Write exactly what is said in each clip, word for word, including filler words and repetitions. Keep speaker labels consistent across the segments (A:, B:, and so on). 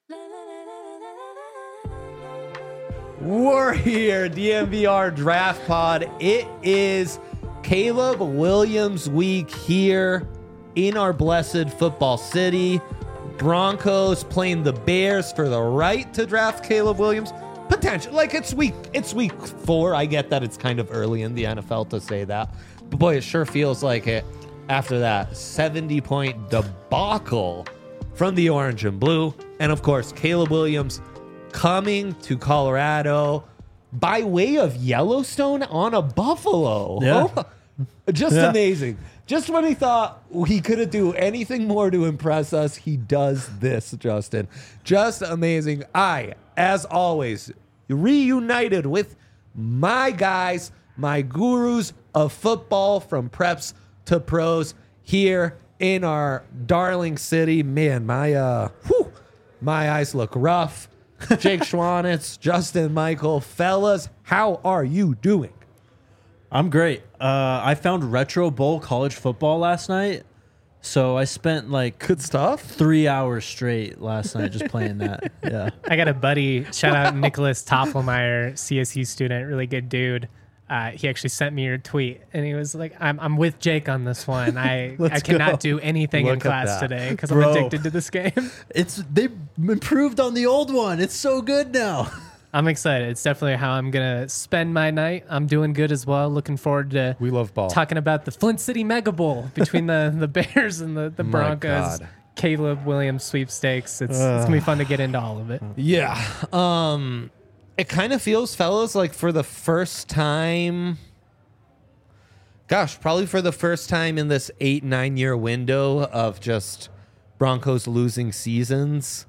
A: We're here, D M V R Draft Pod. It is Caleb Williams week here in our blessed football city. Broncos playing the Bears for the right to draft Caleb Williams. Potential, like it's week, it's week four. I get that it's kind of early in the N F L to say that, but boy, it sure feels like it after that seventy point debacle from the orange and blue. And of course, Caleb Williams coming to Colorado by way of Yellowstone on a buffalo.
B: Yeah.
A: Oh, just yeah. amazing. Just when he thought he couldn't do anything more to impress us, he does this, Justin. Just amazing. I, as always, reunited with my guys, my gurus of football from preps to pros here in our darling city. Man, my uh, whew, my eyes look rough. Jake Schwanitz, Justin Michael, fellas, how are you doing?
B: I'm great. Uh, I found Retro Bowl college football last night, so I spent like
A: good stuff.
B: Three hours straight last night just playing that. Yeah,
C: I got a buddy. Shout out Nicholas Toffelmeyer, C S U student, really good dude. Uh, he actually sent me your tweet, and he was like, "I'm I'm with Jake on this one. I I cannot go. do anything Look in class today because I'm addicted to this game."
B: It's they improved on the old one. It's so good now.
C: I'm excited. It's definitely how I'm gonna spend my night. I'm doing good as well. Looking forward to
A: we love ball
C: talking about the Flint City Mega Bowl between the the Bears and the the Broncos. Caleb Williams sweepstakes. It's uh, it's gonna be fun to get into all of it.
A: Yeah. Um. It kind of feels, fellas, like for the first time, gosh, probably for the first time in this eight, nine year window of just Broncos losing seasons,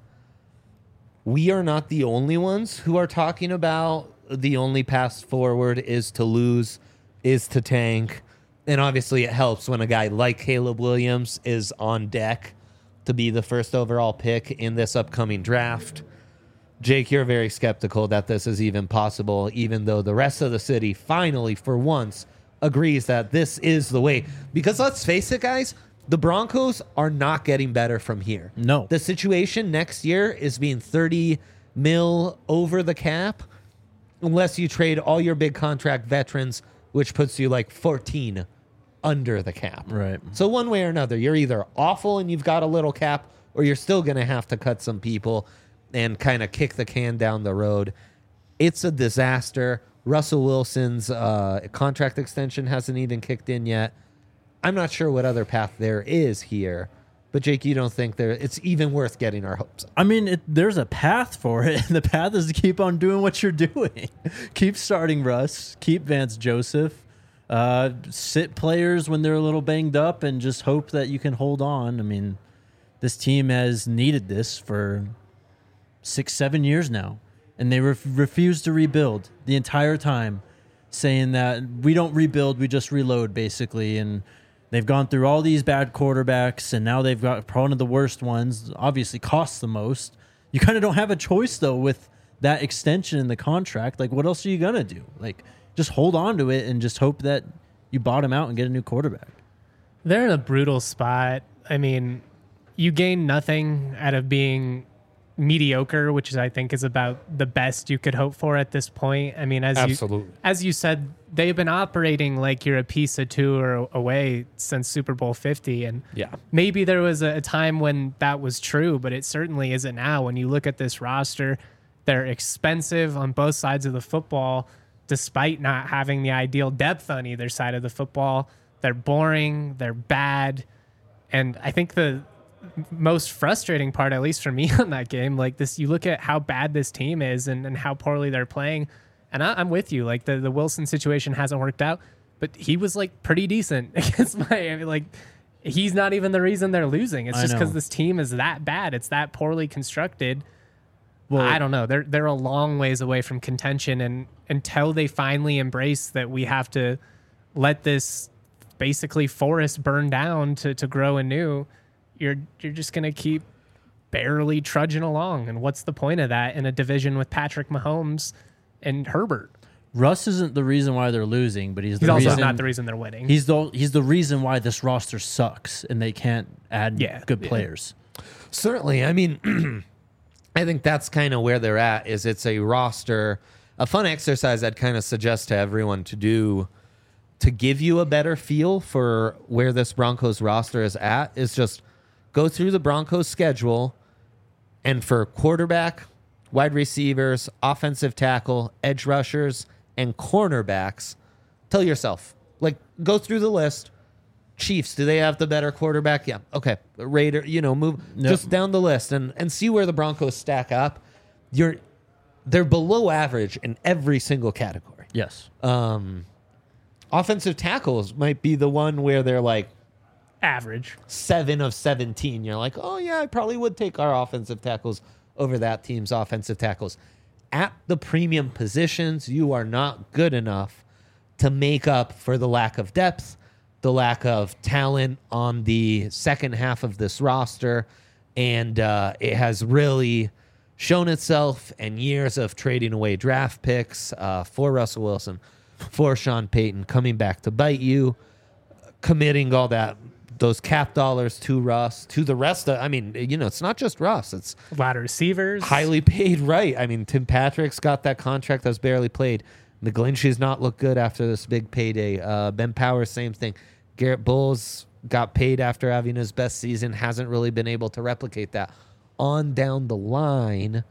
A: we are not the only ones who are talking about the only path forward is to lose, is to tank. And obviously it helps when a guy like Caleb Williams is on deck to be the first overall pick in this upcoming draft. Jake, you're very skeptical that this is even possible, even though the rest of the city finally, for once, agrees that this is the way. Because let's face it, guys, the Broncos are not getting better from here.
B: No.
A: The situation next year is being thirty mil over the cap, unless you trade all your big contract veterans, which puts you like fourteen under the cap.
B: Right.
A: So one way or another, you're either awful and you've got a little cap, or you're still going to have to cut some people and kind of kick the can down the road. It's a disaster. Russell Wilson's uh, contract extension hasn't even kicked in yet. I'm not sure what other path there is here. But, Jake, you don't think there it's even worth getting our hopes up?
B: I mean, it, there's a path for it. And the path is to keep on doing what you're doing. Keep starting Russ. Keep Vance Joseph. Uh, sit players when they're a little banged up and just hope that you can hold on. I mean, this team has needed this for six, seven years now, and they ref- refuse to rebuild the entire time, saying that we don't rebuild, we just reload, basically. And they've gone through all these bad quarterbacks, and now they've got one of the worst ones, obviously costs the most. You kind of don't have a choice, though, with that extension in the contract. Like, what else are you going to do? Like, just hold on to it and just hope that you bottom out and get a new quarterback.
C: They're in a brutal spot. I mean, you gain nothing out of being mediocre, which is, I think, is about the best you could hope for at this point. I mean, as
A: Absolutely.
C: you as you said, they've been operating like you're a piece of two or away since Super Bowl fifty, and
A: yeah,
C: maybe there was a time when that was true, but it certainly isn't now. When you look at this roster, they're expensive on both sides of the football, despite not having the ideal depth on either side of the football. They're boring, they're bad, and I think the most frustrating part, at least for me on that game, like this, you look at how bad this team is and, and how poorly they're playing. And I, I'm with you. Like the, the Wilson situation hasn't worked out, but he was like pretty decent against Miami. Like he's not even the reason they're losing. It's just because this team is that bad. It's that poorly constructed. Well, I don't know. They're, they're a long ways away from contention. And until they finally embrace that we have to let this basically forest burn down to, to grow anew, you're you're just going to keep barely trudging along. And what's the point of that in a division with Patrick Mahomes and Herbert?
B: Russ isn't the reason why they're losing, but he's,
C: he's
B: the
C: also
B: reason,
C: not the reason they're winning.
B: He's the he's the reason why this roster sucks and they can't add
C: yeah,
B: good
C: yeah.
B: players.
A: Certainly. I mean, I think that's kind of where they're at. Is it's a roster, a fun exercise I'd kind of suggest to everyone to do to give you a better feel for where this Broncos roster is at. Is just go through the Broncos schedule, and for quarterback, wide receivers, offensive tackle, edge rushers, and cornerbacks, tell yourself, like, go through the list. Chiefs, do they have the better quarterback? Yeah. Okay. Raider, you know, move
B: Nope.
A: just down the list and, and see where the Broncos stack up. You're they're below average in every single category.
B: Yes.
A: Um, offensive tackles might be the one where they're like
C: Average.
A: seven of seventeen. You're like, oh yeah, I probably would take our offensive tackles over that team's offensive tackles. At the premium positions, you are not good enough to make up for the lack of depth, the lack of talent on the second half of this roster. And uh, it has really shown itself in years of trading away draft picks uh, for Russell Wilson, for Sean Payton, coming back to bite you, committing all that, those cap dollars to Russ, to the rest of, I mean, you know, it's not just Russ, it's
C: A lot of receivers.
A: highly paid, right? I mean, Tim Patrick's got that contract that's barely played. McGlinchey's not looked good after this big payday. Uh, Ben Powers, same thing. Garrett Bowles got paid after having his best season, hasn't really been able to replicate that. On down the line,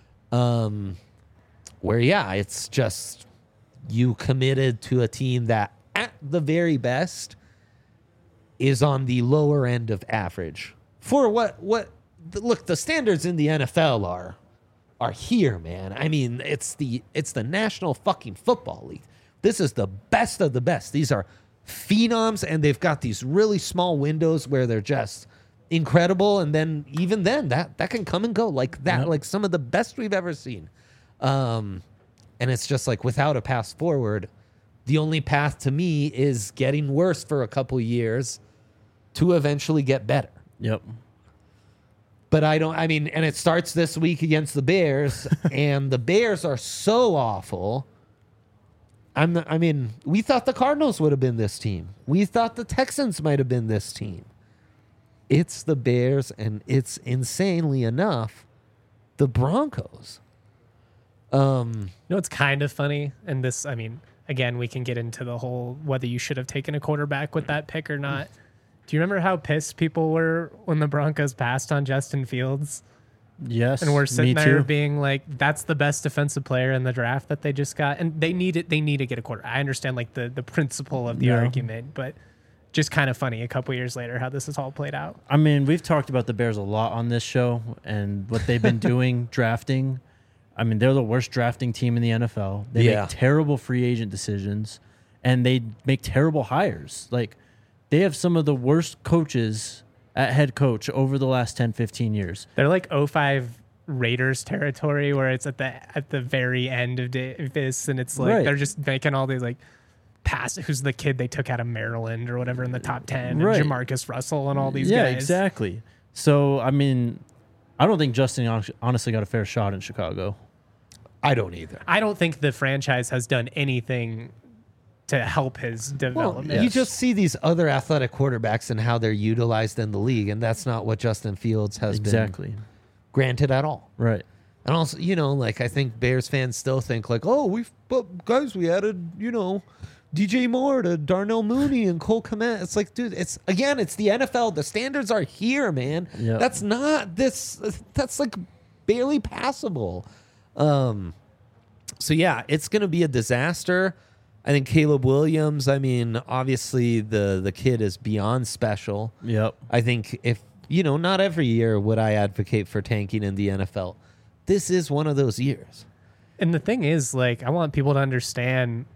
A: um, where, yeah, it's just you committed to a team that at the very best is on the lower end of average. For what, what, look, the standards in the N F L are are here, man. I mean, it's the it's the National fucking Football League. This is the best of the best. These are phenoms, and they've got these really small windows where they're just incredible, and then even then that that can come and go like that.
B: Yep.
A: Like some of the best we've ever seen. Um, and it's just like without a path forward, the only path to me is getting worse for a couple years to eventually get better.
B: Yep.
A: But I don't, I mean, and it starts this week against the Bears, and the Bears are so awful. I'm, I mean, we thought the Cardinals would have been this team. We thought the Texans might have been this team. It's the Bears, and it's insanely enough the Broncos. Um,
C: You know, it's kind of funny. And this, I mean, again, we can get into the whole whether you should have taken a quarterback with that pick or not. Do you remember how pissed people were when the Broncos passed on Justin Fields?
B: Yes.
C: And we're sitting
B: me
C: there
B: too.
C: being like, that's the best defensive player in the draft that they just got. And they need it. They need to get a quarter. I understand like the, the principle of the
B: Yeah.
C: argument, but just kind of funny a couple years later how this has all played out.
B: I mean, we've talked about the Bears a lot on this show and what they've been doing drafting. I mean, they're the worst drafting team in the N F L. They
A: Yeah.
B: make terrible free agent decisions, and they make terrible hires. Like, they have some of the worst coaches at head coach over the last ten, fifteen years.
C: They're like oh five Raiders territory where it's at the at the very end of da- this, and it's like
B: Right.
C: they're just making all these like pass. Who's the kid they took out of Maryland or whatever in the top ten?
B: Right.
C: And Jamarcus Russell and all these
B: yeah,
C: guys.
B: exactly. So, I mean, I don't think Justin hon- honestly got a fair shot in Chicago.
A: I don't either.
C: I don't think the franchise has done anything to help his
A: Well,
C: development.
A: you just see these other athletic quarterbacks and how they're utilized in the league, and that's not what Justin Fields has been
B: Exactly.
A: granted at all.
B: Right.
A: And also, you know, like I think Bears fans still think like, oh, we've but guys, we added, you know, D J Moore to Darnell Mooney and Cole Kmet. It's like, dude, it's again, it's the N F L. The standards are here, man.
B: Yep.
A: That's not this. That's like barely passable. Um, so yeah, it's gonna be a disaster. I think Caleb Williams. I mean, obviously the the kid is beyond special.
B: Yep.
A: I think if, you know, not every year would I advocate for tanking in the N F L. This is one of those years.
C: And the thing is, like, I want people to understand,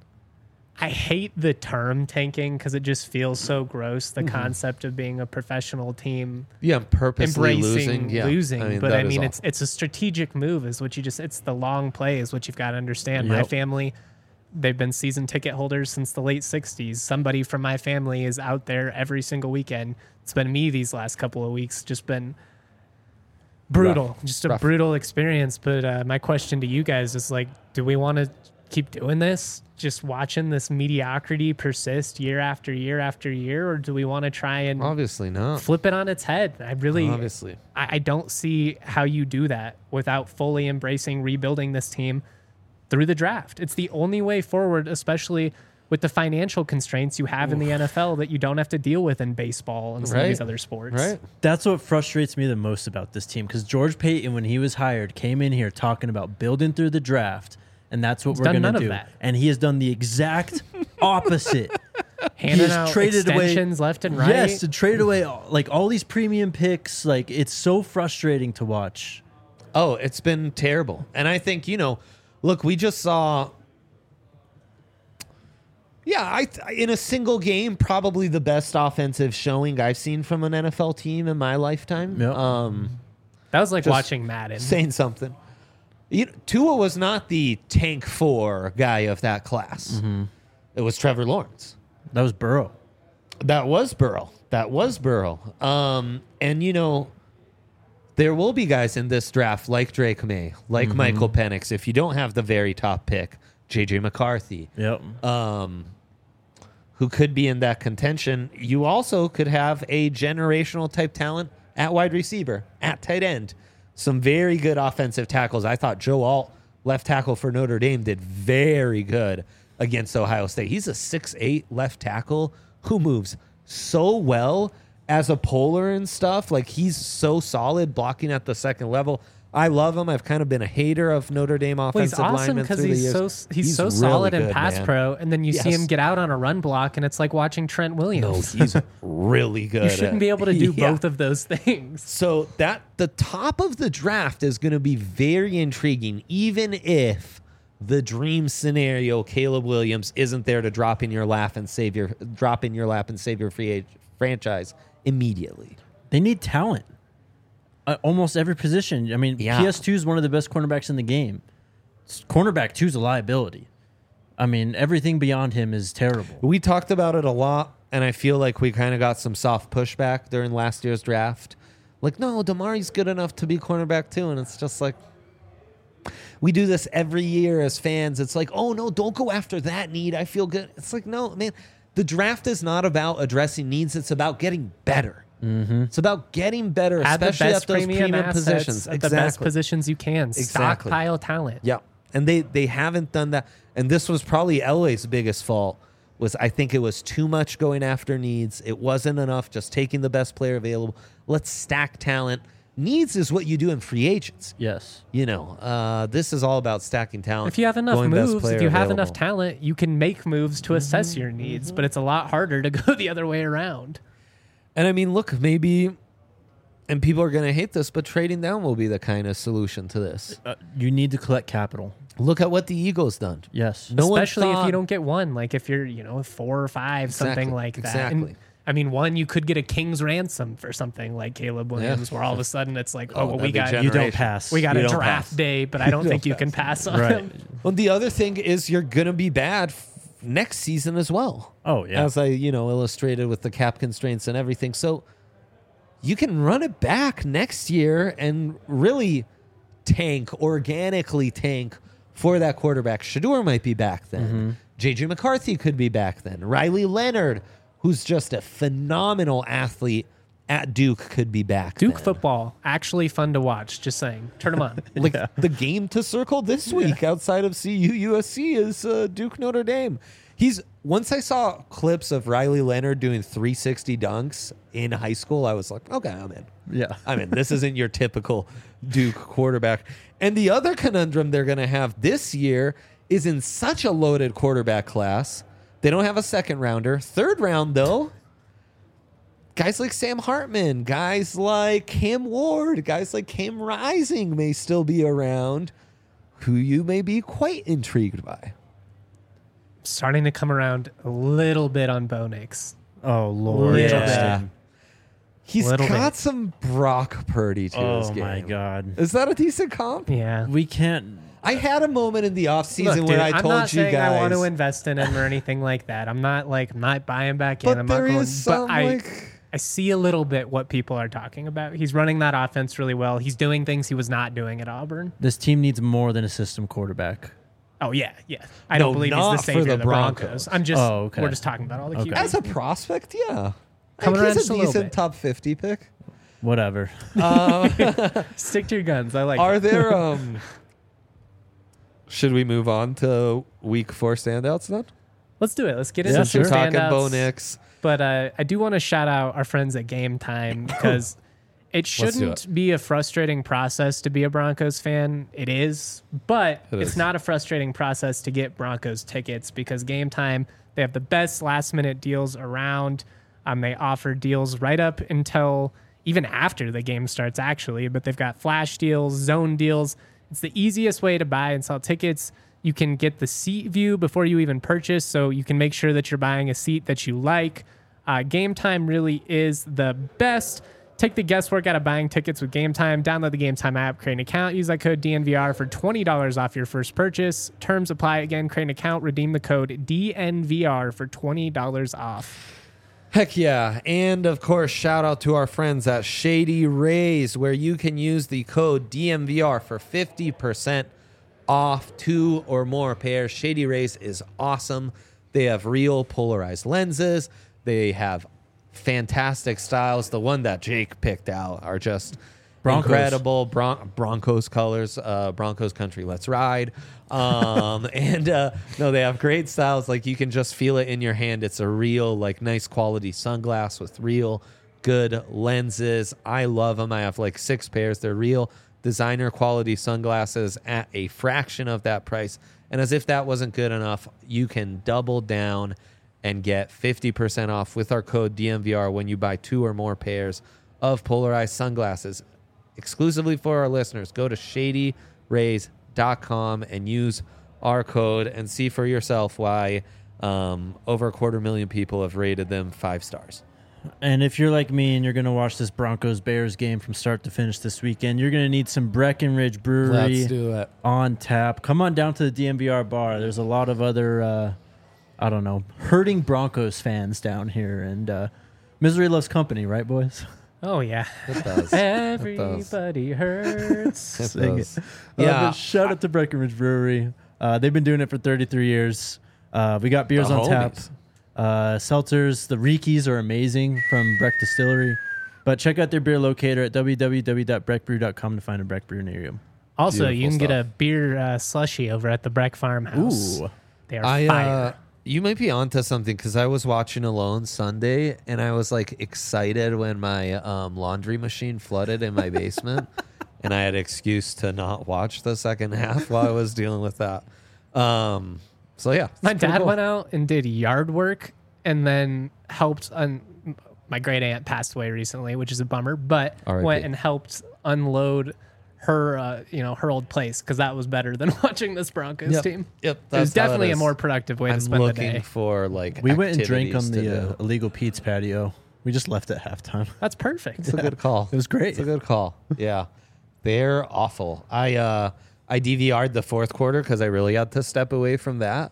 C: I hate the term tanking because it just feels so gross, the concept of being a professional team
A: Yeah, purposely
C: embracing
A: losing. Yeah.
C: losing. but
A: that
C: I
A: is
C: mean,
A: awful.
C: it's it's a strategic move is what you just, it's the long play is what you've got to understand. My
B: Yep.
C: family, they've been season ticket holders since the late sixties. Somebody from my family is out there every single weekend. It's been me these last couple of weeks, just been brutal,
A: Rough.
C: just a
A: Rough.
C: brutal experience. But uh, my question to you guys is like, do we want to keep doing this, just watching this mediocrity persist year after year after year, or do we want to try and
A: Obviously not.
C: flip it on its head? I really,
A: Obviously.
C: I, I don't see how you do that without fully embracing rebuilding this team through the draft. It's the only way forward, especially with the financial constraints you have in the N F L that you don't have to deal with in baseball and some
A: Right.
C: of these other sports.
A: Right.
B: That's what frustrates me the most about this team, because George Payton, when he was hired, came in here talking about building through the draft, and that's what
C: He's
B: we're
C: done
B: going
C: none
B: to
C: of
B: do.
C: that.
B: And he has done the exact opposite.
C: Handing
B: has
C: out
B: traded away-
C: extensions left and right.
B: Yes, to trade away all, like all these premium picks. Like, it's so frustrating to watch.
A: Oh, it's been terrible. And I think, you know, look, we just saw. Yeah, I th- in a single game, probably the best offensive showing I've seen from an N F L team in my lifetime.
B: Yep.
A: Um,
C: That was like
A: Just
C: watching Madden.
A: saying something. You know, Tua was not the tank four guy of that class. It was Trevor Lawrence.
B: That was Burrow.
A: That was Burrow. That was Burrow. Um, and, you know, there will be guys in this draft like Drake May, like Michael Penix. If you don't have the very top pick, J J McCarthy,
B: Yep.
A: um, who could be in that contention. You also could have a generational type talent at wide receiver, at tight end. Some very good offensive tackles. I thought Joe Alt, left tackle for Notre Dame, did very good against Ohio State. He's a six eight left tackle who moves so well as a polar and stuff. Like, he's so solid blocking at the second level. I love him. I've kind of been a hater of Notre Dame
C: Well,
A: offensive
C: he's awesome
A: linemen
C: because
A: through the
C: he's
A: years.
C: so he's, so
A: really
C: solid in
A: good,
C: pass
A: man.
C: pro, and then you see
A: Yes.
C: him get out on a run block, and it's like watching Trent
A: No,
C: Williams.
A: he's really good.
C: you shouldn't
A: at-
C: be able to do
A: Yeah.
C: both of those things.
A: So that the top of the draft is going to be very intriguing, even if the dream scenario, Caleb Williams, isn't there to drop in your lap and save your drop in your lap and save your free age franchise immediately.
B: They need talent. Uh, almost every position. I mean,
A: Yeah.
B: P S two is one of the best cornerbacks in the game. S- Cornerback two is a liability. I mean, everything beyond him is terrible.
A: We talked about it a lot, and I feel like we kind of got some soft pushback during last year's draft. Like, no, Damari's good enough to be cornerback too, and it's just like, we do this every year as fans. It's like, oh, no, don't go after that need. I feel good. It's like, no, man, the draft is not about addressing needs. It's about getting better. Mm-hmm. It's about getting better,
C: Add the
A: especially
C: best
A: at those
C: premium,
A: premium
C: assets
A: positions.
C: at
A: Exactly.
C: the best positions you can.
A: Exactly.
C: Stockpile talent.
A: Yeah. And they, they haven't done that. And this was probably Elway's biggest fault, was I think it was too much going after needs. It wasn't enough just taking the best player available. Let's stack talent. Needs is what you do in free agents.
B: Yes.
A: You know, uh, this is all about stacking talent.
C: If you have enough
A: going best
C: moves,
A: player
C: if you have
A: available.
C: enough talent, you can make moves to assess your needs, but it's a lot harder to go the other way around.
A: And I mean, look, maybe, and people are going to hate this, but trading down will be the kind of solution to this.
B: Uh, you need to collect capital.
A: Look at what the Eagles done.
B: Yes.
A: No one
C: Especially if
A: thought-
C: you don't get one, like if you're, you know, four or five,
A: Exactly,
C: something like that.
A: exactly.
C: And, I mean, one, you could get a king's ransom for something like Caleb Williams, where all of a sudden it's like, oh,
A: Oh,
C: well,
A: that'd
C: we
A: be
C: got
A: generous.
B: You don't
A: generation.
B: pass.
C: we got
A: You
C: a
A: don't
C: draft
A: pass.
C: day, but I don't
A: You
C: think
A: don't
C: you can pass on
B: Right.
C: him.
A: Well, the other thing is you're going to be bad f- next season as well.
B: Oh, yeah.
A: As I, you know, illustrated with the cap constraints and everything. So you can run it back next year and really tank, organically tank for that quarterback. Shador might be back then.
B: Mm-hmm.
A: J J McCarthy could be back then. Riley Leonard, who's just a phenomenal athlete at Duke, could be back
C: Duke
A: then.
C: football, actually fun to watch. Just saying. Turn them on.
A: Like the game to circle this week outside of C U U S C is uh, Duke Notre Dame. He's once I saw clips of Riley Leonard doing three sixty dunks in high school, I was like, okay, I'm in.
B: Yeah.
A: I mean, this isn't your typical Duke quarterback. And the other conundrum they're going to have this year is in such a loaded quarterback class. They don't have a second rounder. Third round, though, guys like Sam Hartman, guys like Cam Ward, guys like Cam Rising may still be around, who you may be quite intrigued by.
C: Starting to come around a little bit on Bo Nix.
B: Oh, Lord.
C: Little
A: Yeah.
B: Justin.
A: He's
C: Little
A: got
C: bit.
A: some Brock Purdy to his
B: Oh,
A: game.
B: my God.
A: Is that a decent comp?
C: Yeah.
B: We can't.
A: I had a moment in the offseason
C: Look,
A: where
C: dude,
A: I
C: I'm
A: told
C: not
A: you
C: saying
A: guys.
C: I want to invest in him or anything like that. I'm not like I'm not buying back in.
A: but
C: I'm
A: there
C: not going,
A: is some
C: but I,
A: like
C: I see a little bit what people are talking about. He's running that offense really well. He's doing things he was not doing at Auburn.
B: This team needs more than a system quarterback.
C: Oh yeah, yeah. I
A: No,
C: don't believe he's
A: not
C: the
A: for
C: savior
A: the
C: of the Broncos.
A: Broncos.
C: I'm just
B: Oh, okay.
C: we're just talking about all the
B: Okay.
C: Q
A: As
C: Bs.
A: a prospect, yeah.
C: Coming
A: Like,
C: around
A: he's
C: just a
A: a
C: little
A: decent
C: bit.
A: top fifty pick.
B: Whatever.
C: Stick to your guns. I like
A: Are
C: it.
A: there um should we move on to week four standouts then?
C: Let's do it. Let's get
B: Yeah,
C: into some
B: sure.
A: Talking
C: standouts.
A: Bo Nix.
C: But uh, I do want to shout out our friends at Game Time because it
A: Let's do
C: shouldn't be a frustrating process to be a Broncos fan. It is, but
A: It
C: it's
A: is.
C: not a frustrating process to get Broncos tickets because Game Time, they have the best last minute deals around. Um, they offer deals right up until even after the game starts, actually, but they've got flash deals, zone deals. It's the easiest way to buy and sell tickets. You can get the seat view before you even purchase, so you can make sure that you're buying a seat that you like. Uh, Game Time really is the best. Take the guesswork out of buying tickets with Game Time. Download the Game Time app, create an account, use that code D N V R for twenty dollars off your first purchase. Terms apply. Again, create an account, redeem the code D N V R for twenty dollars off.
A: Heck yeah. And of course, shout out to our friends at Shady Rays, where you can use the code D M V R for fifty percent off two or more pairs. Shady Rays is awesome. They have real polarized lenses. They have fantastic styles. The one that Jake picked out are just
B: Broncos.
A: incredible. Bron- Broncos colors, uh, Broncos country. Let's ride. Um, and uh, no, they have great styles. Like you can just feel it in your hand. It's a real, like, nice quality sunglass with real good lenses. I love them. I have like six pairs. They're real designer quality sunglasses at a fraction of that price. And as if that wasn't good enough, you can double down and get fifty percent off with our code D M V R when you buy two or more pairs of polarized sunglasses. Exclusively for our listeners, go to shady rays dot com and use our code and see for yourself why um, over a quarter million people have rated them five stars.
B: And if you're like me and you're going to watch this Broncos-Bears game from start to finish this weekend, you're going to need some Breckenridge Brewery
A: do it.
B: on tap. Come on down to the D M V R bar. There's a lot of other, uh, I don't know, hurting Broncos fans down here. And uh, misery loves company, right, boys?
C: Oh, yeah.
A: It does.
C: Everybody hurts.
A: It
B: Sing
A: does.
B: it.
A: Yeah.
B: Uh, but shout out to Breckenridge Brewery. Uh, they've been doing it for thirty-three years. Uh, we got beers
A: The
B: on tap.
A: homies.
B: Uh, seltzers, the Rickies are amazing from Breck Distillery. But check out their beer locator at w w w dot breck brew dot com to find a Breck brew near you.
C: Also, you
A: Beautiful
C: can get a
A: stuff.
C: beer uh, slushy over at the Breck Farmhouse.
B: Ooh.
C: They are
A: I,
C: fire.
A: uh, you might be onto something because I was watching Alone Sunday and I was like excited when my um, laundry machine flooded in my basement and I had an excuse to not watch the second half while I was dealing with that. Um, so yeah,
C: My
A: it's pretty
C: dad
A: cool.
C: went out and did yard work and then helped. Un- my great aunt passed away recently, which is a bummer, but
A: R I P.
C: went and helped unload her, uh, you know, her old place because that was better than watching this Broncos
A: Yep.
C: team.
A: Yep,
C: It was
A: that's how it
C: definitely a
A: is.
C: more productive way
A: I'm
C: to spend the
A: looking
C: day.
A: for like
B: We went and drank on
A: activities to
B: the uh,
A: do.
B: Illegal Pete's patio. We just left at halftime.
C: That's perfect.
A: It's a good call.
B: It was great.
A: It's a good call. Yeah, they're awful. I uh, I D V R'd the fourth quarter because I really had to step away from that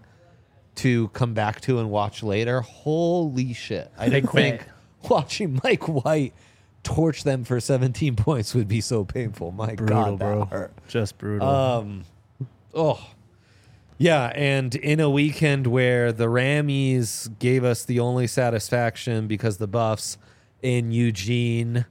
A: to come back to and watch later. Holy shit! I
C: They
A: didn't
C: quit.
A: think watching Mike White torch them for seventeen points would be so painful. My
B: Brutal,
A: God, that
B: bro.
A: hurt.
B: Just brutal.
A: Um, oh, yeah. And in a weekend where the Rammies gave us the only satisfaction because the Buffs in Eugene,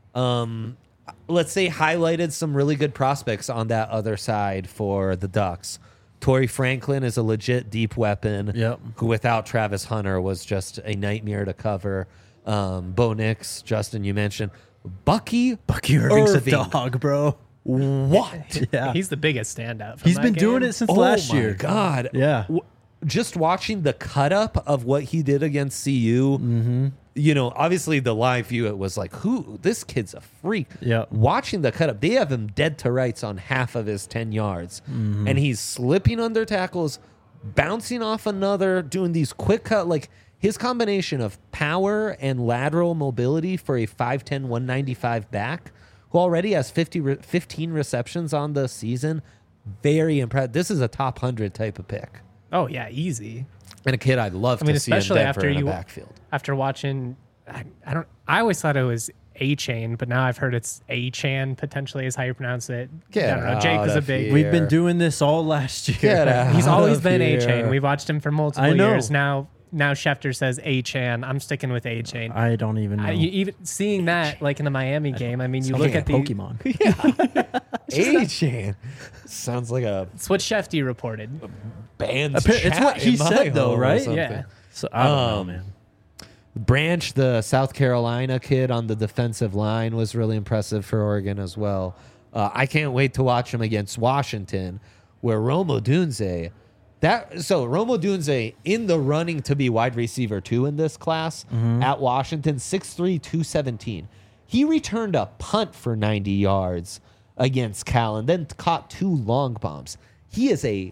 A: um, let's say highlighted some really good prospects on that other side for the Ducks. Torrey Franklin is a legit deep weapon.
B: Yep.
A: Who without Travis Hunter was just a nightmare to cover. Um, Bo Nix, Justin, you mentioned Bucky.
B: Bucky Irving's
A: Irving.
B: a dog, bro.
A: What?
B: Yeah.
C: He's the biggest standout. From
B: He's
C: that
B: been doing
C: game.
B: it since
A: Oh
B: last
A: my
B: year.
A: God.
B: Yeah.
A: W- Just watching the cut up of what he did against C U,
B: Mm-hmm.
A: you know, obviously the live view, it was like, who, this kid's a freak.
B: Yeah.
A: Watching the cut up, they have him dead to rights on half of his ten yards.
B: Mm-hmm.
A: And he's slipping under tackles, bouncing off another, doing these quick cut, like his combination of power and lateral mobility for a five ten, one ninety-five back who already has fifty, re- fifteen receptions on the season. Very impressive. This is a top one hundred type of pick.
C: Oh yeah, easy.
A: And a kid I'd love
C: I mean,
A: to see in
C: especially
A: Denver
C: after
A: in a
C: you
A: backfield.
C: after watching. I, I don't. I always thought it was A-Chain, but now I've heard it's A-Chan potentially is how you pronounce it.
A: Get
C: I don't know. Jake
A: out
C: was a
A: of
C: big.
A: here.
B: We've been doing this all last year.
A: Get out
C: He's always
A: of
C: been
A: here.
C: A-Chain. We've watched him for multiple
B: I know.
C: years now. Now Schefter says A-Chan. I'm sticking with A-Chain.
B: I don't even know.
C: I, you, even seeing that like in the Miami game, I mean, you
B: Sounds
C: look
B: like
C: at the
B: Pokemon.
A: A-Chan. Sounds like a
C: It's what Shefty reported.
A: band.
B: Appa- it's what he said, though, right?
C: Yeah.
B: So I don't know,
A: Um,
B: man.
A: Branch, the South Carolina kid on the defensive line, was really impressive for Oregon as well. Uh, I can't wait to watch him against Washington, where Romo Dunze, that so Romo Dunze in the running to be wide receiver two in this class at Washington, six three, two seventeen. He returned a punt for ninety yards against Cal and then caught two long bombs. He is a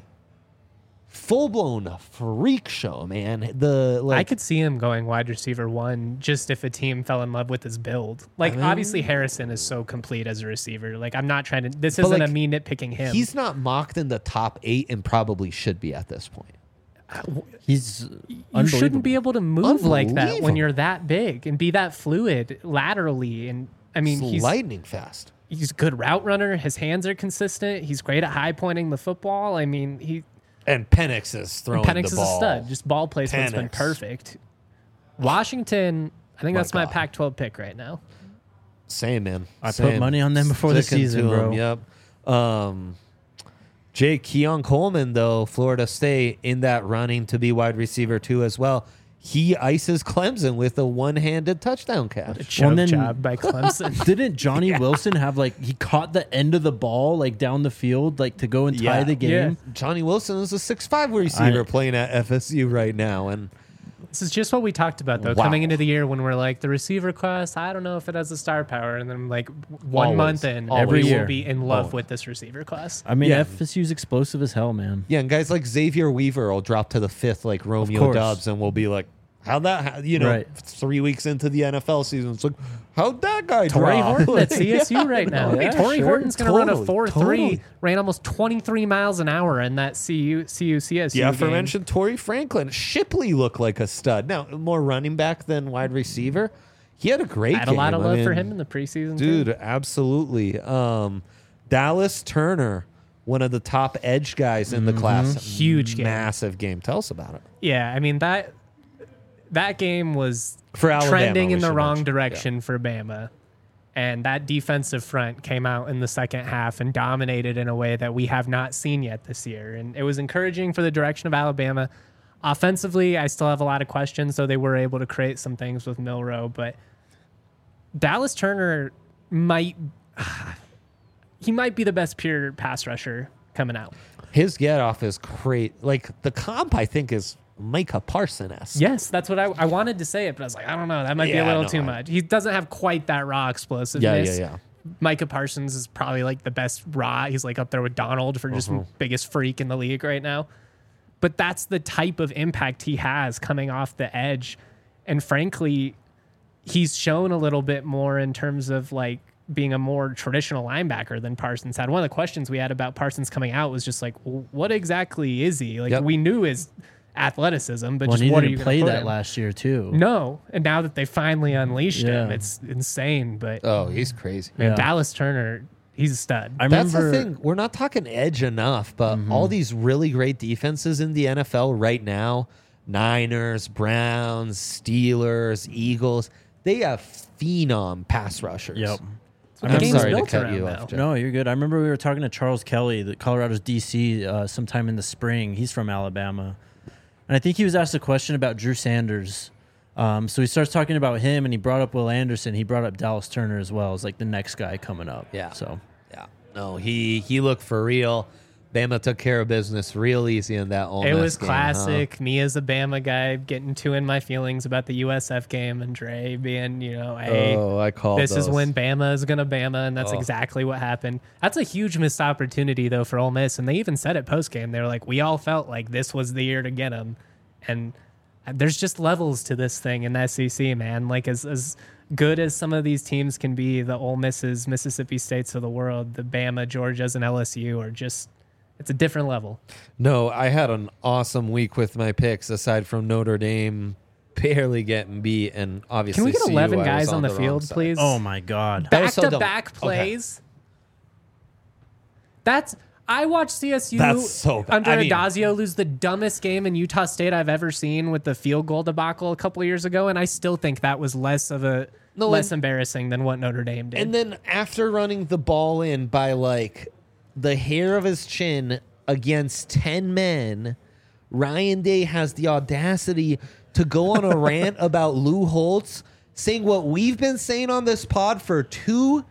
A: full-blown freak show, man. The like,
C: I could see him going wide receiver one just if a team fell in love with his build. Like,
A: I mean-
C: obviously, Harrison is so complete as a receiver. Like, I'm not trying to. This
A: But,
C: isn't
A: like,
C: a me nitpicking him.
A: he's not mocked in the top eight and probably should be at this point.
B: He's
C: you shouldn't be able to move like that when
A: Unbelievable.
C: you're that big and be that fluid laterally. And I mean,
A: He's
C: he's
A: lightning fast.
C: he's a good route runner. His hands are consistent. He's great at high pointing the football. I mean, he
A: And Penix is throwing
C: Penix
A: the
C: is
A: ball.
C: a stud. Just ball placement's been
A: Penix.
C: perfect. Washington, I think
A: My
C: that's my
A: God.
C: Pac twelve pick right now.
A: Same, man.
B: I put
A: Same.
B: money on them before the
A: Sticking
B: season,
A: to
B: bro.
A: 'em, Yep. Um, Jake Keon Coleman, though, Florida State in that running to be wide receiver too as well. He ices Clemson with a one-handed touchdown catch.
C: Choke
B: and then-
C: job by Clemson.
B: Didn't Johnny Wilson have like he caught the end of the ball like down the field like to go and tie
A: Yeah.
B: the game?
C: Yeah.
A: Johnny Wilson is a six five receiver
B: I-
A: playing at F S U right now, and
C: This is just what we talked about, though,
A: Wow.
C: coming into the year when we're like, the receiver class, I don't know if it has the star power. And then, like, one
A: Always.
C: month in,
A: Always.
C: every
B: Every
C: year
B: year.
C: will be in love
A: Always.
C: with this receiver class.
B: I mean,
A: Yeah.
B: F S U's explosive as hell, man.
A: yeah, and guys like Xavier Weaver will drop to the fifth like Romeo
B: course.
A: Dubs, and we'll be like, how'd that, ha-? you know,
B: Right.
A: three weeks into the N F L season, it's like, how'd that guy
C: Tory
A: drop?
C: Horton at C S U right now.
A: Yeah,
C: Tory
A: sure.
C: Horton's going to run a
A: Totally,
C: four three,
A: totally.
C: ran almost twenty-three miles an hour in that C U C U C S U
A: The
C: game.
A: aforementioned Torrey Franklin. Shipley looked like a stud. Now, more running back than wide receiver. He had a great
C: I had
A: game.
C: a lot of
A: I
C: love for
A: mean,
C: him in the preseason. too.
A: Dude, absolutely. Um, Dallas Turner, one of the top edge guys in the class.
C: Huge game.
A: Massive game. Tell us about it.
C: Yeah, I mean, that that game was
A: For Alabama,
C: trending
A: we
C: in the
A: should
C: wrong
A: mention.
C: direction for Bama. And that defensive front came out in the second half and dominated in a way that we have not seen yet this year. And it was encouraging for the direction of Alabama. Offensively, I still have a lot of questions, though they were able to create some things with Milrow. But Dallas Turner might he might be the best pure pass rusher coming out.
A: His get off is great. Like, the comp, I think, is Micah Parsons-esque.
C: Yes, that's what I, I wanted to say it, but I was like, I don't know. That might be
A: Yeah,
C: a little
A: no,
C: too
A: I-
C: much. He doesn't have quite that raw
A: Yeah,
C: explosiveness.
A: yeah, yeah.
C: Micah Parsons is probably like the best raw. He's like up there with Donald for just
A: Uh-huh.
C: biggest freak in the league right now. But that's the type of impact he has coming off the edge. And frankly, he's shown a little bit more in terms of like being a more traditional linebacker than Parsons had. One of the questions we had about Parsons coming out was just like, well, what exactly is he? Like
A: Yep.
C: we knew his athleticism, but
B: Well,
C: just
B: he
C: what are
B: didn't
C: you gonna
B: play
C: put
B: that
C: him?
B: last year too.
C: No, and now that they finally unleashed him,
B: Yeah.
C: it's insane. But
A: Oh, he's crazy.
C: man,
B: Yeah.
C: Dallas Turner, he's a stud.
B: I
A: That's
B: remember
A: the thing. We're not talking edge enough, but
C: Mm-hmm.
A: all these really great defenses in the N F L right now, Niners, Browns, Steelers, Eagles, they have phenom pass rushers.
B: Yep.
C: The
A: I'm
C: game's
A: sorry to
C: built
A: cut
C: around
A: you
C: now.
A: off, Jeff.
B: No, you're good. I remember we were talking to Charles Kelly, the Colorado's D C, uh, sometime in the spring. He's from Alabama. And I think he was asked a question about Drew Sanders. Um, so he starts talking about him, and he brought up Will Anderson. He brought up Dallas Turner as well as like the next guy coming up.
A: Yeah.
B: So
A: Yeah. No, he he looked for real. Bama took care of business real easy in that Ole
C: It
A: Miss
C: was
A: game,
C: classic. Me as a Bama guy getting too in my feelings about the U S F game and Dre being, you know,
A: huh?
C: hey,
A: Oh, I called
C: this is
A: those.
C: when Bama is going to Bama, and that's
A: Oh.
C: exactly what happened. That's a huge missed opportunity, though, for Ole Miss. And they even said it post game. They were like, we all felt like this was the year to get them. And there's just levels to this thing in the S E C, man. Like, as, as good as some of these teams can be, the Ole Misses, Mississippi States of the world, the Bama, Georgias, and L S U are just, it's a different level.
A: No, I had an awesome week with my picks aside from Notre Dame barely getting beat, and obviously,
C: Can we get
A: C U,
C: eleven
A: I
C: guys
A: was
C: on the
A: wrong
C: field,
A: side.
C: please?
B: Oh my God.
A: That was
C: Back
A: so
C: to
A: dumb.
C: back
A: Okay.
C: plays. That's I watched C S U
A: That's so bad.
C: under
A: I mean-
C: Adazio lose the dumbest game in Utah State I've ever seen with the field goal debacle a couple of years ago, and I still think that was less of a
A: No,
C: less
A: and-
C: embarrassing than what Notre Dame did.
A: And then after running the ball in by like the hair of his chin against ten men, Ryan Day has the audacity to go on a rant about Lou Holtz, saying what we've been saying on this pod for two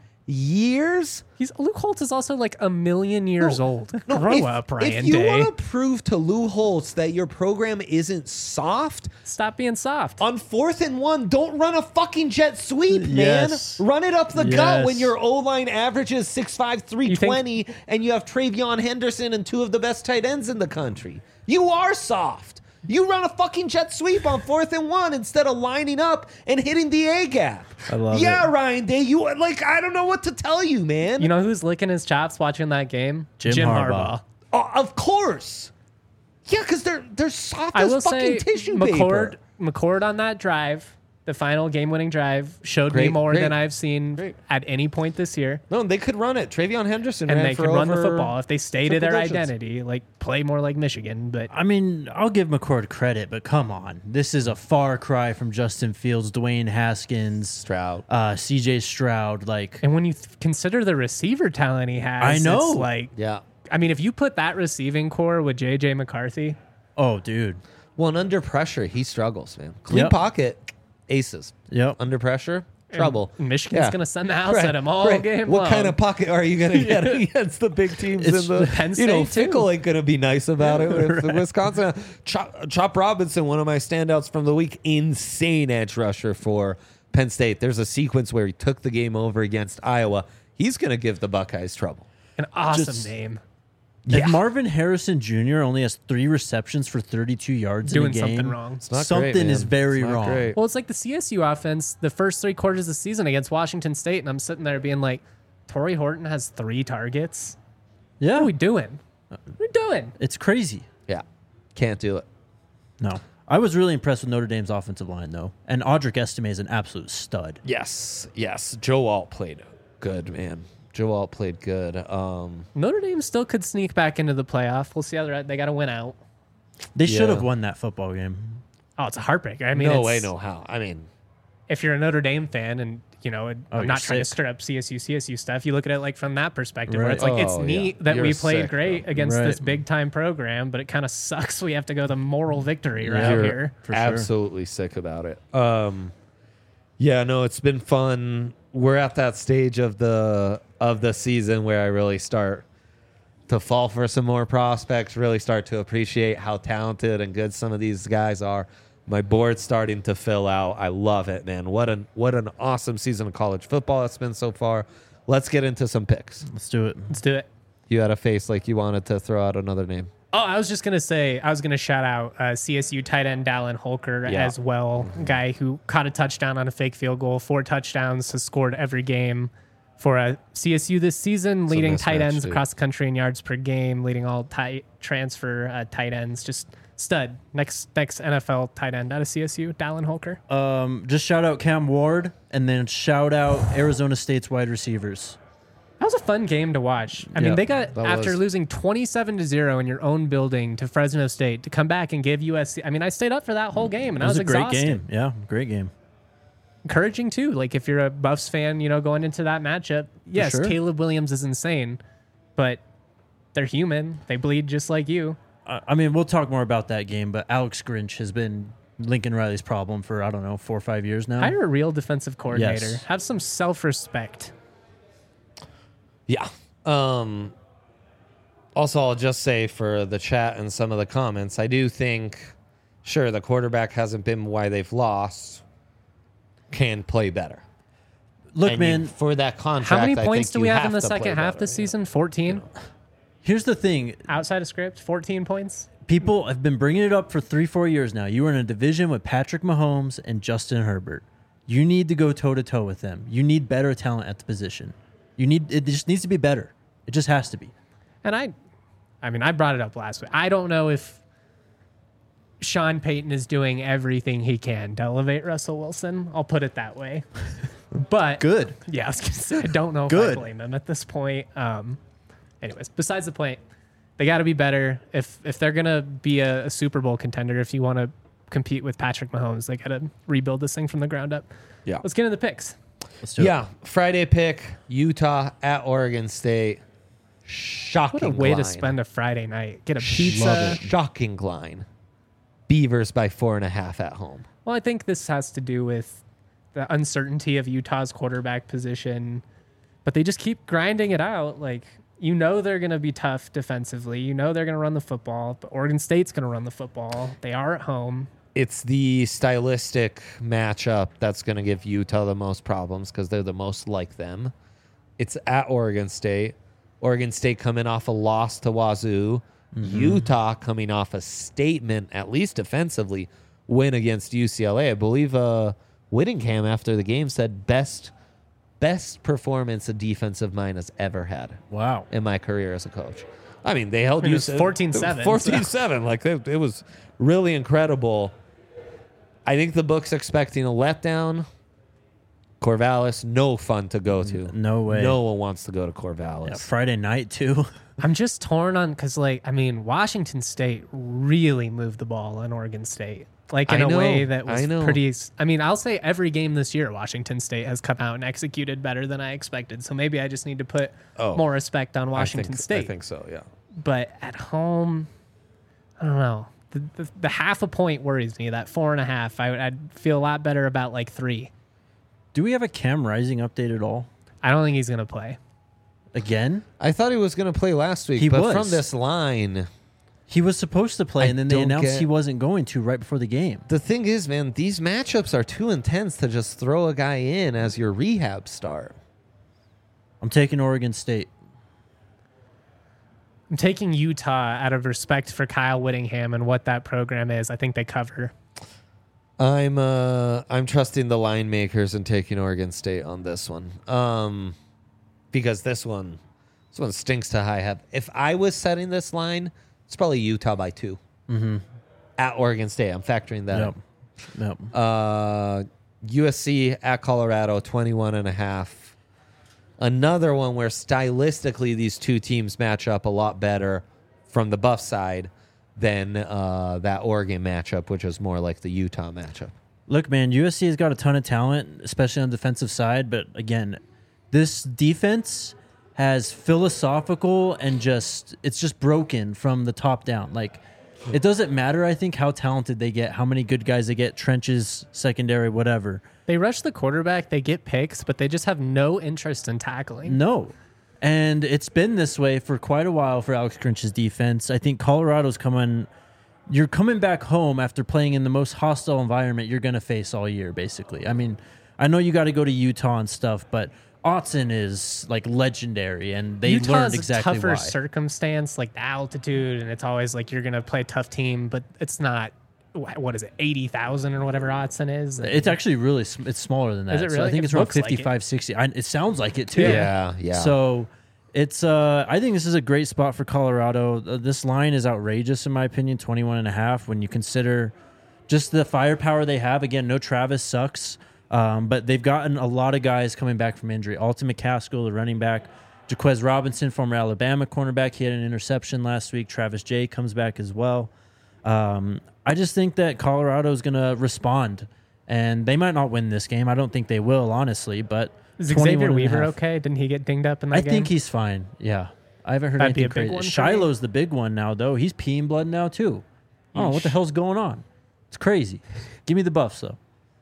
A: years.
C: He's Luke Holtz is also like a million years
A: No,
C: old.
A: no,
C: Grow
A: if,
C: up, Ryan
A: If you
C: Day.
A: want to prove to Lou Holtz that your program isn't soft,
C: Stop being soft.
A: on fourth and one, don't run a fucking jet sweep, man.
B: Yes.
A: Run it up the gut
B: Yes.
A: when your O-line averages six five, three twenty, and you have Travion Henderson and two of the best tight ends in the country. You are soft. You run a fucking jet sweep on fourth and one instead of lining up and hitting the A gap.
B: I love
A: yeah,
B: it.
A: Ryan Day. You like I don't know what to tell you, man.
C: You know who's licking his chops watching that game?
B: Jim Harbaugh.
A: Oh, of course. Yeah, because they're they're soft
C: I
A: as
C: will
A: fucking
C: say
A: tissue
C: McCord,
A: paper.
C: McCord on that drive, the final game-winning drive, showed me
A: Great,
C: more
A: great.
C: than I've seen
A: Great.
C: at any point this year.
A: No, they could run it. Travion Henderson
C: And
A: ran
C: they
A: for
C: can run the
A: over
C: football if they stay to
A: triple
C: their
A: digits.
C: identity, like play more like Michigan. But
B: I mean, I'll give McCord credit, but come on. This is a far cry from Justin Fields, Dwayne Haskins,
A: Stroud.
B: uh, C J Stroud. Like,
C: and when you th- consider the receiver talent he has,
B: I know.
C: it's like
A: Yeah.
C: I mean, if you put that receiving core with J J McCarthy,
B: oh, dude.
A: Well, and under pressure, he struggles, man. Clean
B: Yep.
A: pocket, aces.
B: Yep.
A: Under pressure, trouble.
C: Michigan's
A: Yeah.
C: gonna send the house
A: Right,
C: at him all
A: right.
C: game
A: What
C: long.
A: kind of pocket are you going to get against the big teams
B: It's
A: in the
C: Penn
A: you know,
C: State, too.
A: Fickle ain't going to be nice about it with Wisconsin. Chop, Chop Robinson, one of my standouts from the week, insane edge rusher for Penn State. There's a sequence where he took the game over against Iowa. He's going to give the Buckeyes trouble.
C: An awesome
B: Just-
C: name.
B: If Marvin Harrison Junior only has three receptions for thirty-two yards
C: Doing
B: in a game,
C: something wrong.
A: It's not
B: something
A: great, man.
B: is very
A: It's not
B: wrong.
A: great.
C: Well, it's like the C S U offense, the first three quarters of the season against Washington State, and I'm sitting there being like, Torrey Horton has three targets.
B: Yeah,
C: What are we doing? What are we doing?
B: it's crazy.
A: Yeah. Can't do it.
B: No, I was really impressed with Notre Dame's offensive line though, and Audric Estime is an absolute stud.
A: Yes. Yes. Joe Alt played good, man. Joe Alt played good. Um,
C: Notre Dame still could sneak back into the playoff. We'll see how they're at. They got to win out.
B: They should
A: Yeah.
B: have won that football game.
C: Oh, it's a heartbreaker. I mean,
A: no
C: it's-
A: way, no how. I mean,
C: if you're a Notre Dame fan and, you know, I'm
B: Oh,
C: not
B: you're
C: trying to
B: sick.
C: stir up C S U, C S U stuff, you look at it like from that perspective where
B: Right.
C: it's like, it's
A: Oh, yeah.
C: neat that
A: You're
C: we played
A: sick,
C: great
A: bro.
C: against
B: Right.
C: this big time program, but it kind of sucks we have to go the moral victory route
A: you're
C: here.
B: For sure.
A: absolutely sick about it. Um, yeah, no, it's been fun. We're at that stage of the of the season where I really start to fall for some more prospects, really start to appreciate how talented and good some of these guys are. My board's starting to fill out. I love it, man. What an what an awesome season of college football it's been so far. Let's get into some picks.
B: Let's do it.
C: Let's do it.
A: You had a face like you wanted to throw out another name.
C: Oh, I was just gonna say, I was gonna shout out uh, C S U tight end Dallin Holker
A: Yeah.
C: as well, guy who caught a touchdown on a fake field goal, four touchdowns, has scored every game for uh, C S U this season, leading tight
A: mismatch,
C: ends
A: too.
C: across the country in yards per game, leading all tight transfer uh, tight ends. Just stud. Next next N F L tight end out of C S U, Dallin Holker.
B: Um, just shout out Cam Ward, and then shout out Arizona State's wide receivers.
C: That was a fun game to watch. I
B: Yeah,
C: mean, they got
A: that
C: after
A: was.
C: losing twenty-seven to zero in your own building to Fresno State to come back and give U S C. I mean, I stayed up for that whole game and
B: It
C: I
B: was
C: was
B: a great
C: exhausted.
B: game. Yeah, great game.
C: Encouraging too. Like if you're a Buffs fan, you know, going into that matchup, yes,
B: sure.
C: Caleb Williams is insane, but they're human. They bleed just like you.
B: I I mean, we'll talk more about that game, but Alex Grinch has been Lincoln Riley's problem for, I don't know, four or five years now.
C: Hire a real defensive coordinator.
B: Yes.
C: Have some self-respect.
A: Yeah. Um, also, I'll just say for the chat and some of the comments, I do think, sure, the quarterback hasn't been why they've lost, can play better.
B: Look,
A: And
B: man,
A: you- for that contract,
C: How many
A: I
C: points
A: think
C: do
A: you
C: we have in the
A: to play
C: second half
A: better,
C: this
A: yeah.
C: season? fourteen?
B: here's the thing.
C: Outside of script, fourteen points?
B: People have been bringing it up for three, four years now. You were in a division with Patrick Mahomes and Justin Herbert. You need to go toe to toe with them. You need better talent at the position. You need it just needs to be better. It just has to be.
C: And I, I mean, I brought it up last week. I don't know if Sean Payton is doing everything he can to elevate Russell Wilson. I'll put it that way. But
B: Good.
C: Yeah, I was gonna say I don't know if
B: Good.
C: I blame him at this point. Um, anyways, besides the point, they got to be better. If if they're gonna be a, a Super Bowl contender, if you want to compete with Patrick Mahomes, they got to rebuild this thing from the ground up.
A: Yeah.
C: Let's get into the picks.
B: Let's do
A: Yeah, Friday pick, Utah at Oregon State. Shocking
C: What a way
A: line.
C: to spend a Friday night. Get a
A: Love
C: pizza.
A: it. Shocking line. Beavers by four and a half at home.
C: Well, I think this has to do with the uncertainty of Utah's quarterback position, but they just keep grinding it out. Like, you know they're going to be tough defensively. You know they're going to run the football, but Oregon State's going to run the football. They are at home.
A: It's the stylistic matchup that's going to give Utah the most problems because they're the most like them. It's at Oregon State. Oregon State coming off a loss to Wazoo. Mm-hmm. Utah coming off a statement, at least defensively, win against U C L A. I believe uh, Whittingham after the game said best best performance a defensive mind has ever had
B: Wow.
A: in my career as a coach. I mean, they held
C: I mean,
A: you
C: it was fourteen seven,
A: fourteen seven. Like, it, it was really incredible. I think the book's expecting a letdown. Corvallis, no fun to go to.
B: No way.
A: No one wants to go to Corvallis.
B: Yeah, Friday night, too.
C: I'm just torn on because, like, I mean, Washington State really moved the ball on Oregon State, like in
A: I
C: a
A: know,
C: way that was
A: I know.
C: pretty. I mean, I'll say every game this year, Washington State has come out and executed better than I expected. So maybe I just need to put
A: Oh,
C: more respect on
A: I
C: Washington
A: think,
C: State.
A: I think so, yeah.
C: But at home, I don't know. The, the, the half a point worries me. That four and a half, I, I'd feel a lot better about like three.
B: Do we have a Cam Rising update at all?
C: I don't think he's gonna play.
B: Again?
A: I thought he was going to play last week,
B: He
A: but
B: was.
A: from this line,
B: He was supposed to play,
A: I
B: and then they
A: don't
B: announced
A: get-
B: he wasn't going to right before the game.
A: the thing is, man, these matchups are too intense to just throw a guy in as your rehab start.
B: I'm taking Oregon State.
C: I'm taking Utah out of respect for Kyle Whittingham and what that program is. I think they cover.
A: I'm uh I'm trusting the line makers and taking Oregon State on this one. Um because this one this one stinks to high heaven. If I was setting this line, it's probably Utah by two.
B: Mm-hmm.
A: At Oregon State. I'm factoring that
B: Yep. Yep.
A: in. Uh U S C at Colorado, twenty-one and a half. Another one where stylistically these two teams match up a lot better from the Buff side than uh, that Oregon matchup, which is more like the Utah matchup.
B: Look, man, U S C has got a ton of talent, especially on the defensive side. But again, this defense has philosophical and just, it's just broken from the top down. Like, it doesn't matter, I think, how talented they get, how many good guys they get, trenches, secondary, whatever.
C: They rush the quarterback, they get picks, but they just have no interest in tackling.
B: No. And it's been this way for quite a while for Alex Grinch's defense. I think Colorado's coming. You're coming back home after playing in the most hostile environment you're going to face all year, basically. I mean, I know you got to go to Utah and stuff, but Autzen is like legendary, and they
C: Utah's
B: learned exactly
C: a tougher
B: why.
C: circumstance, like the altitude, and it's always like you're going to play a tough team, but it's not, wh- what is it, eighty thousand or whatever Autzen is?
B: It's actually really sm- it's smaller than that.
C: Is it
B: So I
C: really?
B: think
C: It
B: it's around
C: looks like it.
B: fifty-five, sixty. I, it sounds like it too.
A: Yeah, yeah.
B: So it's uh I think this is a great spot for Colorado. Uh, this line is outrageous in my opinion, twenty-one and a half when you consider just the firepower they have. Again, no Travis sucks. Um, but they've gotten a lot of guys coming back from injury. Alton McCaskill, the running back. Jaquez Robinson, former Alabama cornerback. He had an interception last week. Travis Jay comes back as well. Um, I just think that Colorado is going to respond. And they might not win this game. I don't think they will, honestly. But
C: Is
B: twenty-one
C: Xavier
B: and a
C: Weaver
B: half.
C: okay? Didn't he get dinged up in that
B: I
C: game?
B: think he's fine. Yeah. I haven't heard
C: That'd be
B: anything
C: a big
B: crazy.
C: one for me.
B: Shiloh's the big one now, though. He's peeing blood now, too. Oh, what the hell's going on? It's crazy. Give me the Buffs, though.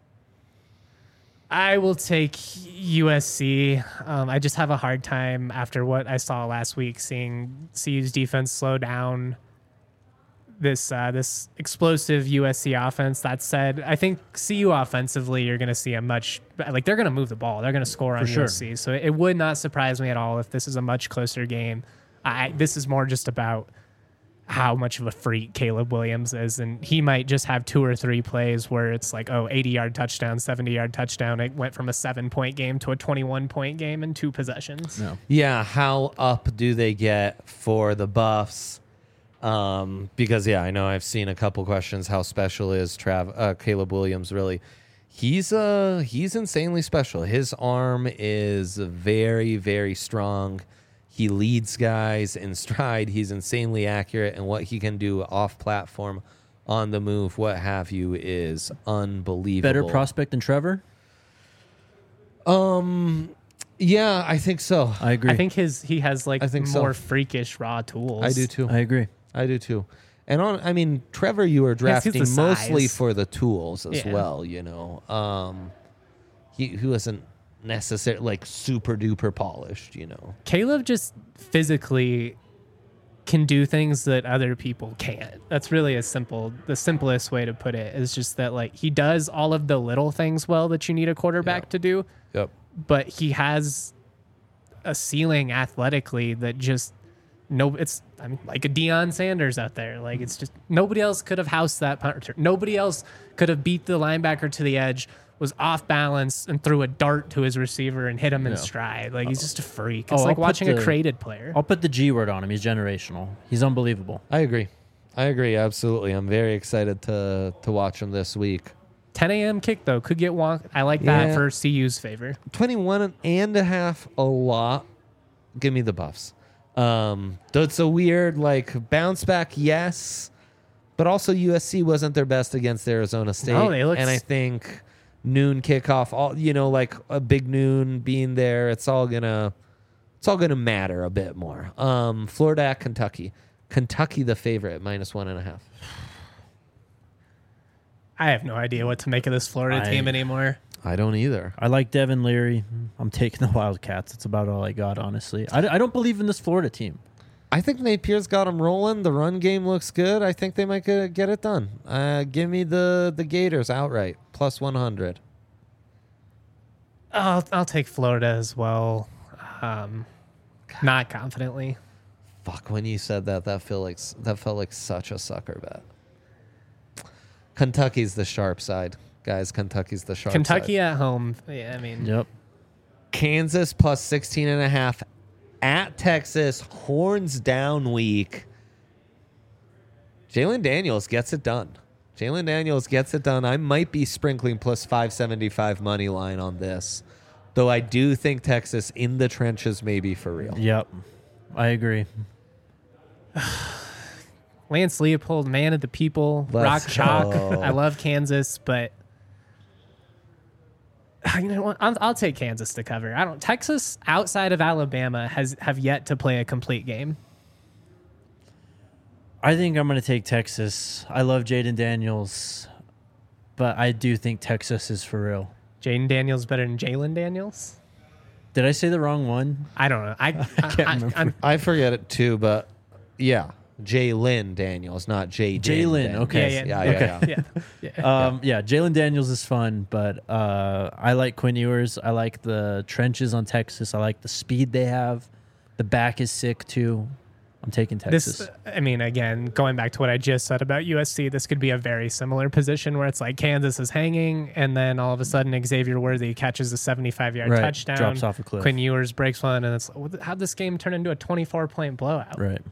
C: I will take U S C. Um, I just have a hard time after what I saw last week, seeing C U's defense slow down this uh, this explosive U S C offense. That said, I think C U offensively, you're going to see a much like they're going to move the ball. They're going to score on
B: For sure.
C: U S C. So it would not surprise me at all if this is a much closer game. I this is more just about how much of a freak Caleb Williams is, and he might just have two or three plays where it's like, oh, eighty-yard touchdown, seventy-yard touchdown. It went from a seven-point game to a twenty-one-point game in two possessions.
B: No.
A: Yeah, how up do they get for the Buffs? Um, because yeah, I know I've seen a couple questions. How special is Trav uh, Caleb Williams? Really, he's uh he's insanely special. His arm is very very strong. He leads guys in stride. He's insanely accurate, and what he can do off platform, on the move, what have you, is unbelievable.
B: Better prospect than Trevor?
A: Um, yeah, I think so.
B: I agree.
C: I think his he has like
A: I think so.
C: more freakish raw tools.
A: I do too.
B: I agree.
A: I do too. And on, I mean, Trevor, you were
C: Yes, he's
A: drafting
C: the
A: mostly
C: size.
A: for the tools as
C: Yeah.
A: well. You know, um, he who wasn't necessarily like super duper polished. You know,
C: Caleb just physically can do things that other people can't. That's really a simple, the simplest way to put it is just that like he does all of the little things well that you need a quarterback
A: Yeah.
C: to do,
A: yep.
C: but he has a ceiling athletically that just no, it's I mean like a Deion Sanders out there. Like it's just nobody else could have housed that punter. Nobody else could have beat the linebacker to the edge, was off balance and threw a dart to his receiver and hit him in
B: Yeah.
C: stride. Like he's just a freak.
B: Oh,
C: It's
B: I'll
C: like
B: put
C: watching a
B: the-
C: created player.
B: I'll put the G word on him. He's generational. He's unbelievable.
A: I agree. I agree. Absolutely. I'm very excited to to watch him this week.
C: ten a.m. kick though could get wonk. I like that
A: Yeah.
C: for C U's favor.
A: twenty-one and a half, a lot. Give me the Buffs. Um, though it's a weird like bounce back, yes, but also U S C wasn't their best against Arizona State.
C: No, they looked
A: and I
C: s-
A: think noon kickoff, all you know, like a big noon being there, it's all gonna it's all gonna matter a bit more. Um, Florida at Kentucky. Kentucky the favorite at minus one and a half.
C: I have no idea what to make of this Florida
B: I-
C: team anymore.
A: I don't either.
B: I like Devin Leary. I'm taking the Wildcats. That's about all I got, honestly. I, I don't believe in this Florida team.
A: I think Napier's got them rolling. The run game looks good. I think they might get, get it done. Uh, give me the the Gators outright plus one hundred.
C: I'll, I'll take Florida as well. Um, not confidently.
A: Fuck, when you said that, that felt like that felt like such a sucker bet. Kentucky's the sharp side, guys. Kentucky's the sharp
C: Kentucky
A: side.
C: at home. Yeah, I mean,
B: Yep.
A: Kansas plus sixteen and a half at Texas. Horns down week. Jalen Daniels gets it done. Jalen Daniels gets it done. I might be sprinkling plus five seventy-five money line on this, though I do think Texas in the trenches maybe for real.
B: Yep. I agree.
C: Lance Leopold, man of the people,
A: Let's
C: rock chalk.
A: go.
C: I love Kansas, but you know what? I'll, I'll take Kansas to cover. I don't. Texas outside of Alabama has have yet to play a complete game.
B: I think I'm going to take Texas. I love Jaden Daniels, but I do think Texas is for real.
C: Jaden Daniels better than Jalen Daniels.
B: Did I say the wrong one?
C: I don't know. I, I
B: can't remember.
C: I'm,
A: I forget it too, but yeah, Jalen Daniels, not J.
B: Jalen, okay.
C: Yeah,
A: yeah,
C: yeah,
A: yeah.
B: okay.
A: yeah.
C: yeah, yeah.
B: Um, yeah, Jalen Daniels is fun, but uh, I like Quinn Ewers. I like the trenches on Texas. I like the speed they have. The back is sick too. I'm taking Texas.
C: This, I mean, again, going back to what I just said about U S C, this could be a very similar position where it's like Kansas is hanging, and then all of a sudden Xavier Worthy catches a seventy-five yard
B: Right,
C: touchdown,
B: drops off a cliff.
C: Quinn Ewers breaks one, and it's how'd this game turn into a twenty-four point blowout?
B: Right.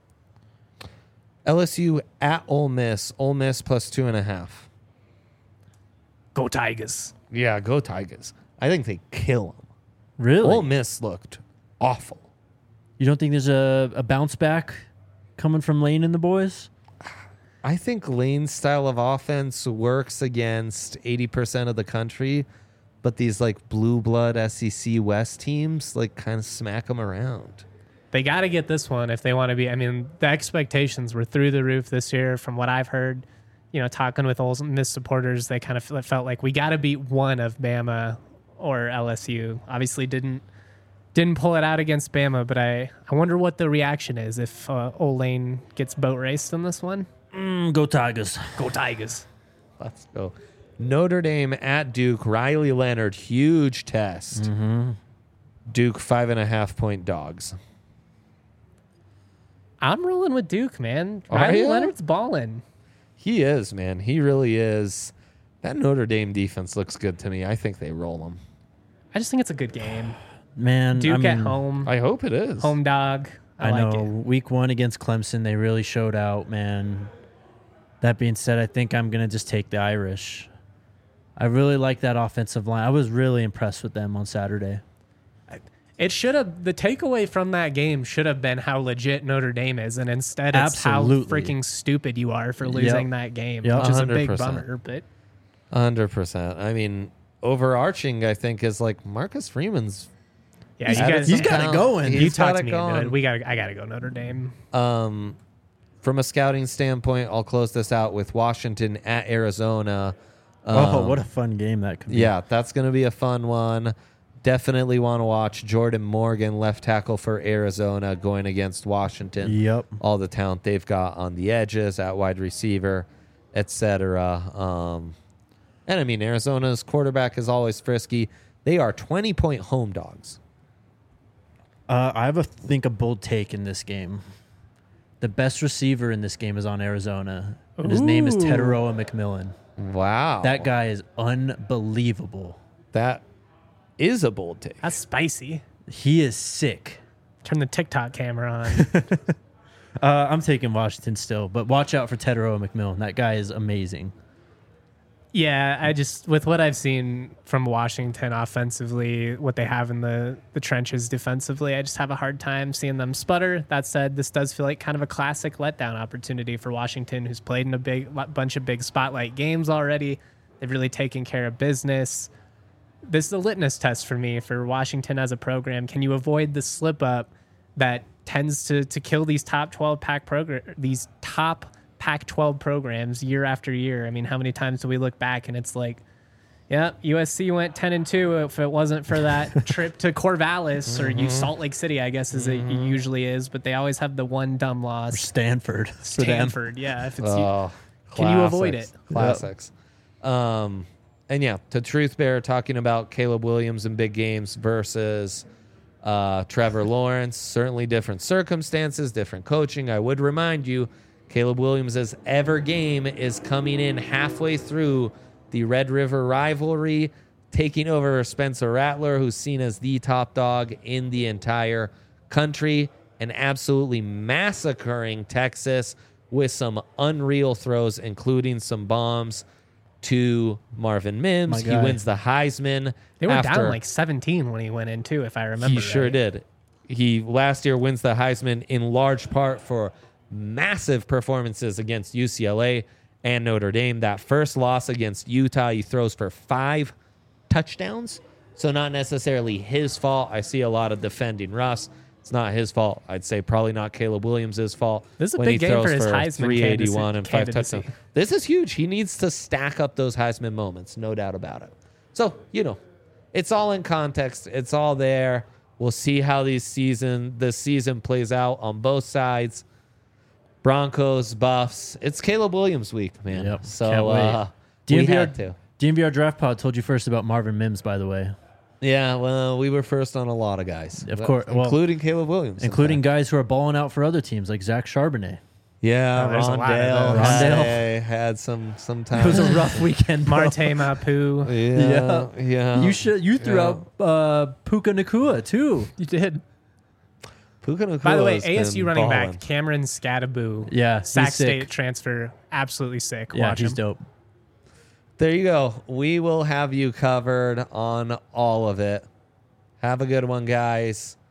A: L S U at Ole Miss. Ole Miss plus two and a half.
C: Go Tigers!
A: Yeah, go Tigers. I think they kill them.
B: Really?
A: Ole Miss looked awful.
B: You don't think there's a, a bounce back coming from Lane and the boys?
A: I think Lane's style of offense works against eighty percent of the country, but these like blue blood S E C West teams like kind of smack them around.
C: They got to get this one if they want to be. I mean, the expectations were through the roof this year, from what I've heard. You know, talking with Ole Miss supporters, they kind of felt like we got to beat one of Bama or L S U. Obviously, didn't didn't pull it out against Bama, but I I wonder what the reaction is if uh, Ole Lane gets boat raced in this one.
B: Mm, go Tigers.
C: Go Tigers!
A: Let's go. Notre Dame at Duke. Riley Leonard, huge test.
B: Mm-hmm.
A: Duke five and a half point dogs.
C: I'm rolling with Duke, man.
A: Are
C: Riley
A: ya?
C: Leonard's balling.
A: He is, man. He really is. That Notre Dame defense looks good to me. I think they roll them.
C: I just think it's a good game.
B: Man,
C: Duke
B: I mean,
C: at home,
A: I hope it is.
C: home dog. I,
B: I,
C: like
B: know.
C: it.
B: Week one against Clemson, they really showed out, man. That being said, I think I'm going to just take the Irish. I really like that offensive line. I was really impressed with them on Saturday.
C: It should have, the takeaway from that game should have been how legit Notre Dame is, and instead it's
B: Absolutely.
C: how freaking stupid you are for losing
B: Yep.
C: that game,
B: Yep.
C: which is a
A: one hundred
C: big
A: percent.
C: bummer. But
A: one hundred percent. I mean, overarching, I think, is like Marcus Freeman's.
C: yeah,
A: He's
C: you
A: got
C: guys,
A: it
B: He's got it going.
C: you
A: He's got
C: talked
A: it
C: me into
A: going.
C: it. We got, I got to go Notre Dame.
A: Um, from a scouting standpoint, I'll close this out with Washington at Arizona.
B: Oh,
A: Um,
B: what a fun game that could be.
A: Yeah, that's going to be a fun one. Definitely want to watch Jordan Morgan, left tackle for Arizona, going against Washington.
B: Yep.
A: All the talent they've got on the edges, at wide receiver, et cetera. Um, and I mean, Arizona's quarterback is always frisky. They are twenty-point home dogs.
B: Uh, I have a think a bold take in this game. The best receiver in this game is on Arizona, and his name is
C: Ooh.
B: Teteroa McMillan.
A: Wow.
B: That guy is unbelievable.
A: That is a bold take.
C: That's spicy.
B: He is sick.
C: Turn the TikTok camera on.
B: Uh, I'm taking Washington still, but watch out for Teteroa McMillan. That guy is amazing.
C: Yeah, I just, with what I've seen from Washington offensively, what they have in the, the trenches defensively, I just have a hard time seeing them sputter. That said, this does feel like kind of a classic letdown opportunity for Washington, who's played in a big bunch of big spotlight games already. They've really taken care of business. This is a litmus test for me for Washington as a program. Can you avoid the slip up that tends to to kill these top twelve pack program these top Pac twelve programs year after year? I mean, how many times do we look back and it's like, yeah, U S C went ten and two if it wasn't for that trip to Corvallis or you Salt Lake City, I guess as it usually is, but they always have the one dumb loss.
B: Stanford. for them.
C: Stanford, yeah. If it's
A: Oh,
C: Can you avoid
A: classics.
C: it?
A: Classics. Um, and yeah, to Truth Bear talking about Caleb Williams in big games versus uh, Trevor Lawrence. Certainly different circumstances, different coaching. I would remind you, Caleb Williams' ever game is coming in halfway through the Red River rivalry, taking over Spencer Rattler, who's seen as the top dog in the entire country, and absolutely massacring Texas with some unreal throws, including some bombs to Marvin Mims.
B: My
A: He
B: guy.
A: wins the Heisman.
C: they were
A: after
C: down like seventeen when he went in too, if I remember.
A: he sure
C: right.
A: did. He last year wins the Heisman in large part for massive performances against U C L A and Notre Dame. That first loss against Utah, he throws for five touchdowns. So not necessarily his fault. I see a lot of defending Russ. It's not his fault. I'd say probably not Caleb Williams' fault.
C: This is a
A: when
C: big
A: he
C: game for
A: throws
C: his Heisman
A: three eighty-one and five
C: candidacy.
A: touchdowns. This is huge. He needs to stack up those Heisman moments, no doubt about it. So, you know, it's all in context. It's all there. We'll see how these season this season plays out on both sides. Broncos, Buffs. It's Caleb Williams week, man.
B: Yep.
A: So
B: Can't wait.
A: uh, we
B: D M V R,
A: had to.
B: D M V R Draft Pod told you first about Marvin Mims, by the way,
A: Yeah, well, we were first on a lot of guys.
B: Of course. Well,
A: including Caleb Williams. in
B: including
A: fact.
B: guys who are balling out for other teams like Zach Charbonnet.
A: Yeah,
C: Oh, there's a lot of
A: Rondale.
C: those.
A: Had,
B: Rondale.
A: had some some
B: It
A: time.
B: was a rough weekend. bro.
C: Marte Mapu.
A: Yeah, yeah.
B: You should. You threw
A: Yeah.
B: out uh, Puka Nakua too.
C: You did.
A: Puka Nacua
C: By the way,
A: has
C: A S U
A: been
C: running
A: balling.
C: back Cameron Scadaboo.
B: Yeah, he's
C: Sac
B: sick.
C: State transfer. Absolutely sick.
B: Yeah,
C: Watch
B: he's
C: him.
B: dope.
A: There you go. We will have you covered on all of it. Have a good one, guys.